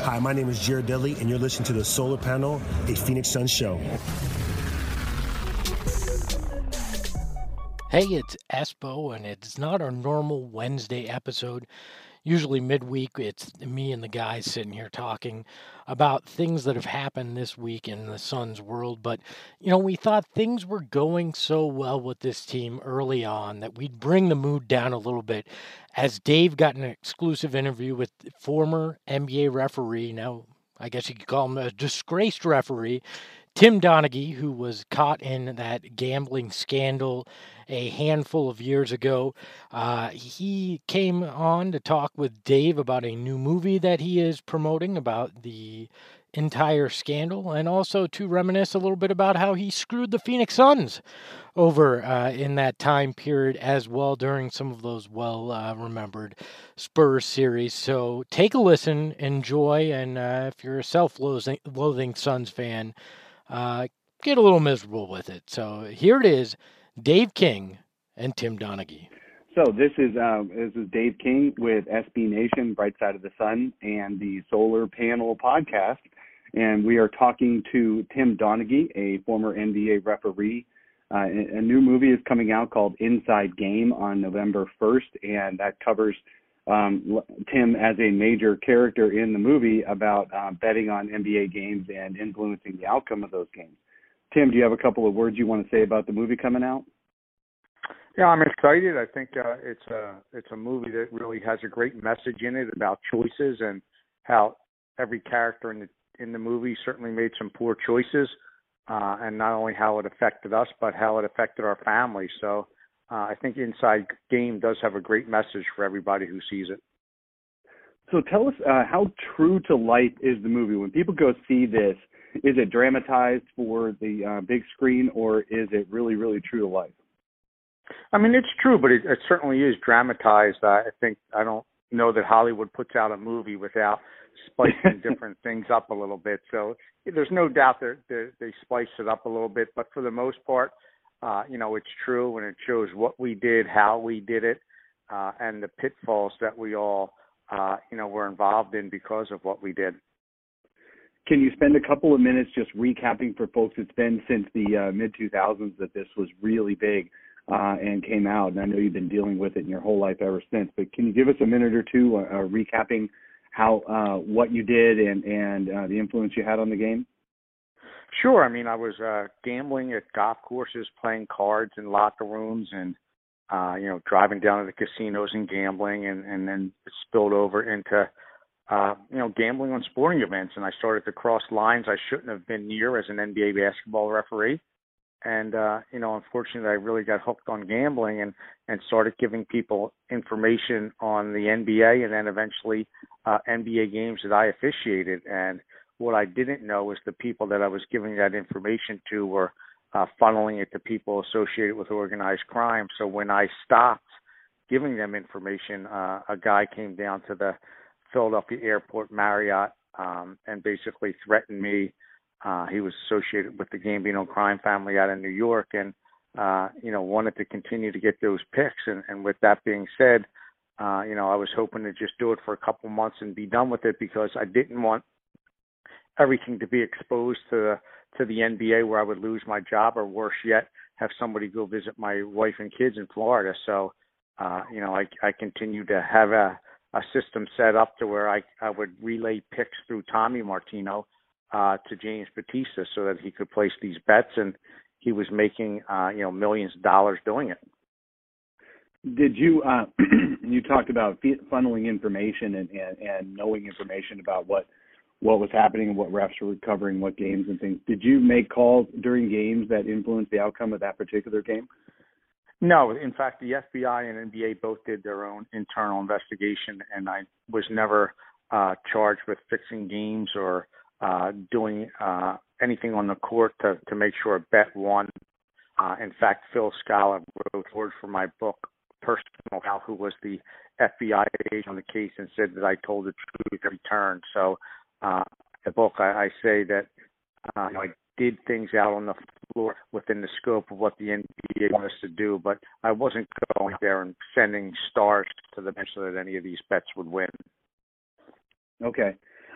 Hi, my name is Jared Dudley, and you're listening to the Solar Panel, a Phoenix Suns show. Hey, it's Espo, and it's not our normal Wednesday episode. Usually midweek, it's me and the guys sitting here talking about things that have happened this week in the Suns world. But, we thought things were going so well with this team early on that we'd bring the mood down a little bit as Dave got an exclusive interview with former NBA referee. Now, I guess you could call him a disgraced referee, Tim Donaghy, who was caught in that gambling scandal a handful of years ago. He came on to talk with Dave about a new movie that he is promoting about the entire scandal, and also to reminisce a little bit about how he screwed the Phoenix Suns over in that time period as well during some of those well-remembered Spurs series. So take a listen, enjoy, and if you're a self-loathing Suns fan, get a little miserable with it. So here it is, Dave King and Tim Donaghy. So this is Dave King with SB Nation, Bright Side of the Sun, and the Solar Panel podcast. And we are talking to Tim Donaghy, a former NBA referee. A new movie is coming out called Inside Game on November 1st, and that covers Tim as a major character in the movie about betting on NBA games and influencing the outcome of those games. Tim, do you have a couple of words you want to say about the movie coming out? Yeah, I'm excited. I think it's a movie that really has a great message in it about choices and how every character in the movie certainly made some poor choices, and not only how it affected us, but how it affected our family. So I think Inside Game does have a great message for everybody who sees it. So tell us how true to life is the movie? When people go see this, is it dramatized for the big screen, or is it really, really true to life? I mean, it's true, but it certainly is dramatized. I don't know that Hollywood puts out a movie without spicing different things up a little bit. So there's no doubt they spice it up a little bit. But for the most part, it's true, and it shows what we did, how we did it, and the pitfalls that we all, were involved in because of what we did. Can you spend a couple of minutes just recapping for folks? It's been since the mid-2000s that this was really big and came out, and I know you've been dealing with it in your whole life ever since, but can you give us a minute or two recapping how what you did and the influence you had on the game? Sure. I mean, I was gambling at golf courses, playing cards in locker rooms, and driving down to the casinos and gambling, and then it spilled over into gambling on sporting events. And I started to cross lines I shouldn't have been near as an NBA basketball referee. And, unfortunately, I really got hooked on gambling and started giving people information on the NBA and then eventually NBA games that I officiated. And what I didn't know is the people that I was giving that information to were funneling it to people associated with organized crime. So when I stopped giving them information, a guy came down to the Philadelphia Airport Marriott and basically threatened me. He was associated with the Gambino crime family out in New York and, wanted to continue to get those picks. And with that being said, I was hoping to just do it for a couple months and be done with it because I didn't want everything to be exposed to the NBA where I would lose my job, or worse yet, have somebody go visit my wife and kids in Florida. So, I continued to have a system set up to where I would relay picks through Tommy Martino to James Batista so that he could place these bets, and he was making millions of dollars doing it. Did you you talked about funneling information and knowing information about what was happening and what refs were covering, what games and things. Did you make calls during games that influenced the outcome of that particular game? No. In fact, the FBI and NBA both did their own internal investigation, and I was never charged with fixing games or doing anything on the court to make sure a bet won. In fact, Phil Scala wrote words for my book, Personal Foul, who was the FBI agent on the case, and said that I told the truth every turn. So the book, I say that I did things out on the floor within the scope of what the NBA wanted us to do, but I wasn't going there and sending stars to the bench so that any of these bets would win. Okay.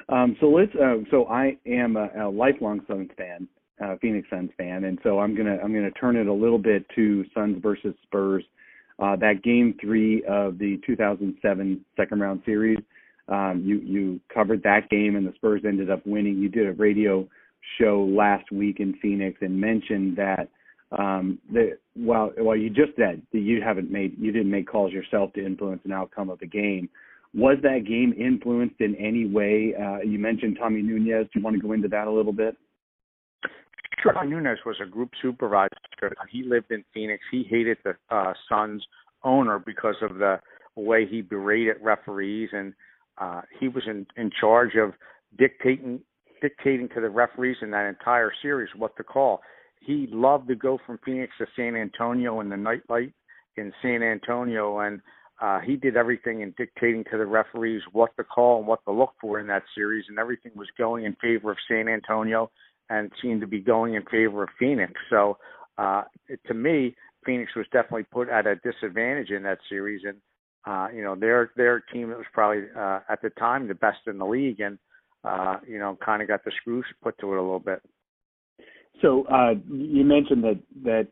So I am a lifelong Suns fan, Phoenix Suns fan, and so I'm gonna turn it a little bit to Suns versus Spurs. That Game 3 of the 2007 second round series, you covered that game, and the Spurs ended up winning. You did a radio show last week in Phoenix and mentioned that while you just said that you didn't make calls yourself to influence an outcome of the game. Was that game influenced in any way? You mentioned Tommy Nunez. Do you want to go into that a little bit? Sure. Tommy Nunez was a group supervisor. He lived in Phoenix. He hated the Suns owner because of the way he berated referees, and he was in charge of dictating to the referees in that entire series what to call. He loved to go from Phoenix to San Antonio in the nightlight in San Antonio, and he did everything in dictating to the referees what to call and what to look for in that series, and everything was going in favor of San Antonio and seemed to be going in favor of Phoenix. So to me, Phoenix was definitely put at a disadvantage in that series, and their team that was probably at the time the best in the league, and kind of got the screws put to it a little bit. So you mentioned that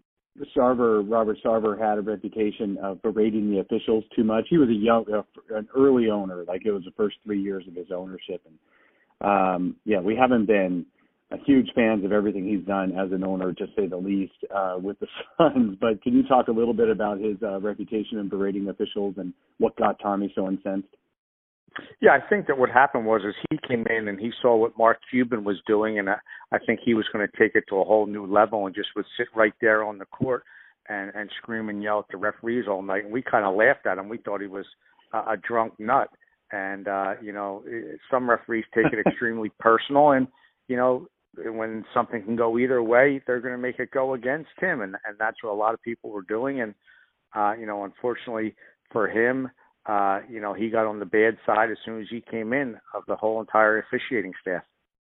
Robert Sarver had a reputation of berating the officials too much. He was an early owner, like it was the first 3 years of his ownership. And we haven't been huge fans of everything he's done as an owner, to say the least, with the Suns. But can you talk a little bit about his reputation in berating officials and what got Tommy so incensed? Yeah, I think that what happened was he came in and he saw what Mark Cuban was doing, and I think he was going to take it to a whole new level and just would sit right there on the court and scream and yell at the referees all night. And we kind of laughed at him. We thought he was a drunk nut. And, some referees take it extremely personal. And, when something can go either way, they're going to make it go against him. And that's what a lot of people were doing. And, unfortunately for him, he got on the bad side as soon as he came in of the whole entire officiating staff.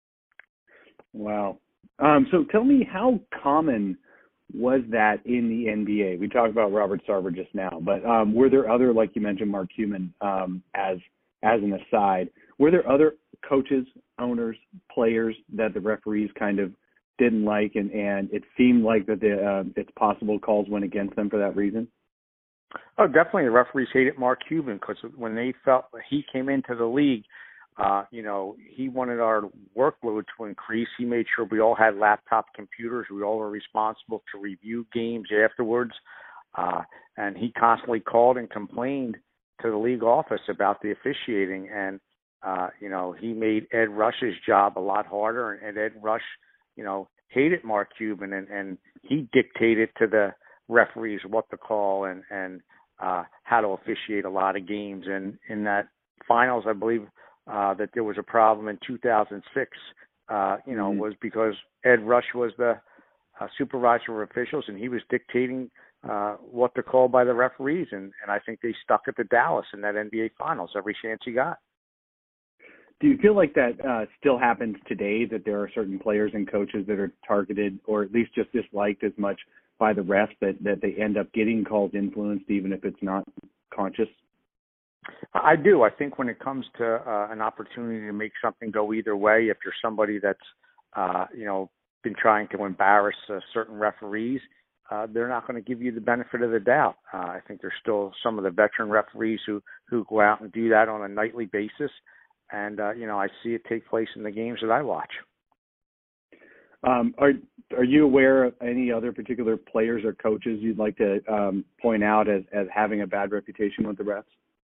Wow. So tell me, how common was that in the NBA? We talked about Robert Sarver just now, but were there other, like you mentioned, Mark Cuban, as an aside, were there other coaches, owners, players that the referees kind of didn't like, and it seemed like that it's possible calls went against them for that reason? Oh, definitely. The referees hated Mark Cuban because when they felt he came into the league, he wanted our workload to increase. He made sure we all had laptop computers. We all were responsible to review games afterwards. And he constantly called and complained to the league office about the officiating. And, he made Ed Rush's job a lot harder. And Ed Rush, hated Mark Cuban, and he dictated to the referees what to call and how to officiate a lot of games. And in that finals, I believe that there was a problem in 2006, was because Ed Rush was the supervisor of officials, and he was dictating what to call by the referees. And I think they stuck it to Dallas in that NBA finals every chance he got. Do you feel like that still happens today, that there are certain players and coaches that are targeted or at least just disliked as much by the refs that they end up getting calls influenced, even if it's not conscious? I do. I think when it comes to an opportunity to make something go either way, if you're somebody that's, been trying to embarrass certain referees, they're not going to give you the benefit of the doubt. I think there's still some of the veteran referees who go out and do that on a nightly basis. And, I see it take place in the games that I watch. Are you aware of any other particular players or coaches you'd like to point out as having a bad reputation with the refs?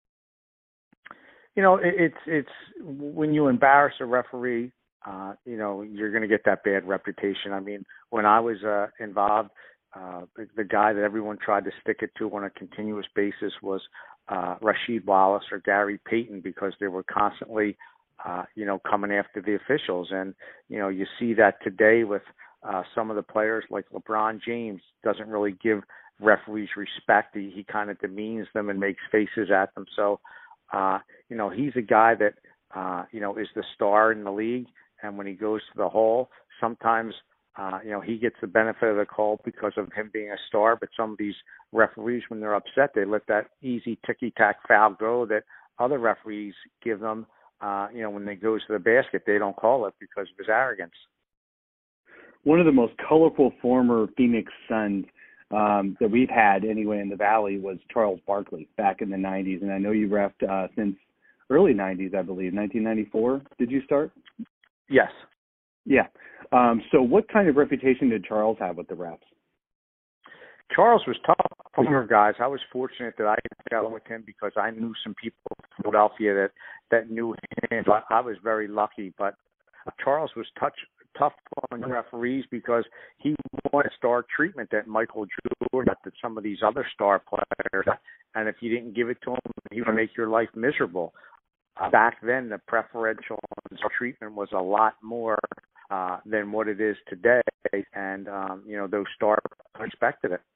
It's when you embarrass a referee, you're going to get that bad reputation. I mean, when I was involved, the guy that everyone tried to stick it to on a continuous basis was Rasheed Wallace or Gary Payton, because they were constantly, coming after the officials. And, you see that today with some of the players like LeBron James doesn't really give referees respect. He kind of demeans them and makes faces at them. So, he's a guy that, is the star in the league. And when he goes to the hole, sometimes, he gets the benefit of the call because of him being a star. But some of these referees, when they're upset, they let that easy ticky-tack foul go that other referees give them when they goes to the basket, they don't call it because of his arrogance. One of the most colorful former Phoenix Suns that we've had anyway in the Valley was Charles Barkley back in the 90s. And I know you refed since early 90s, I believe. 1994, did you start? Yes. Yeah. So what kind of reputation did Charles have with the refs? Charles was tough for guys. I was fortunate that I got along with him because I knew some people from Philadelphia that knew him. So I was very lucky. But Charles was tough on referees because he wanted star treatment that Michael Jordan got, that some of these other star players. And if you didn't give it to him, he would make your life miserable. Back then, the preferential treatment was a lot more than what it is today. And, those stars expected it.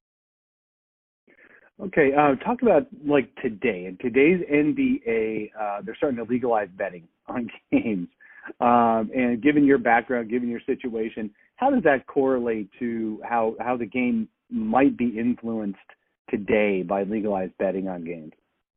Okay, talk about like today. In today's NBA, they're starting to legalize betting on games. And given your background, given your situation, how does that correlate to how the game might be influenced today by legalized betting on games?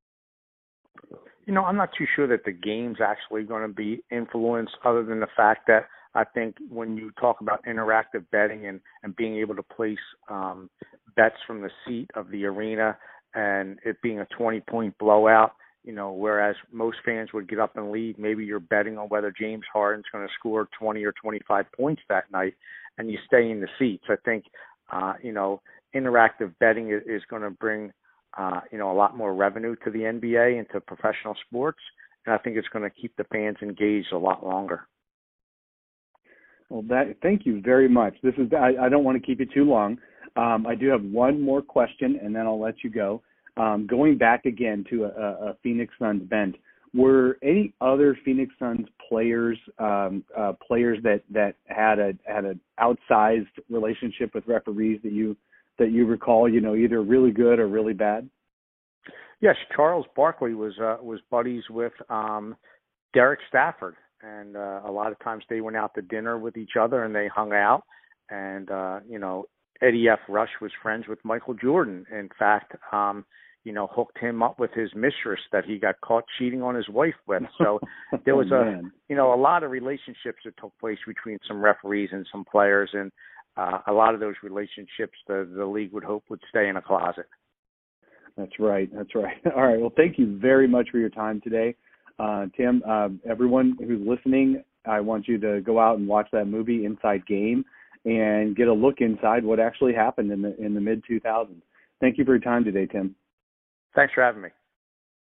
I'm not too sure that the game's actually going to be influenced, other than the fact that I think when you talk about interactive betting and being able to place bets from the seat of the arena and it being a 20-point blowout, whereas most fans would get up and leave, maybe you're betting on whether James Harden's going to score 20 or 25 points that night, and you stay in the seats. I think, interactive betting is going to bring, a lot more revenue to the NBA and to professional sports, and I think it's going to keep the fans engaged a lot longer. Well, thank you very much. I don't want to keep you too long. I do have one more question, and then I'll let you go. Going back again to a Phoenix Suns bench, were any other Phoenix Suns players that had an outsized relationship with referees that you recall? Either really good or really bad. Yes, Charles Barkley was buddies with Derek Stafford, and a lot of times they went out to dinner with each other and they hung out. And Eddie F. Rush was friends with Michael Jordan. In fact, hooked him up with his mistress that he got caught cheating on his wife with. So there was a lot of relationships that took place between some referees and some players, and a lot of those relationships the league would hope would stay in a closet. That's right. All right. Well, thank you very much for your time today, Tim. Everyone who's listening, I want you to go out and watch that movie Inside Game and get a look inside what actually happened in the mid-2000s. Thank you for your time today, Tim. Thanks for having me.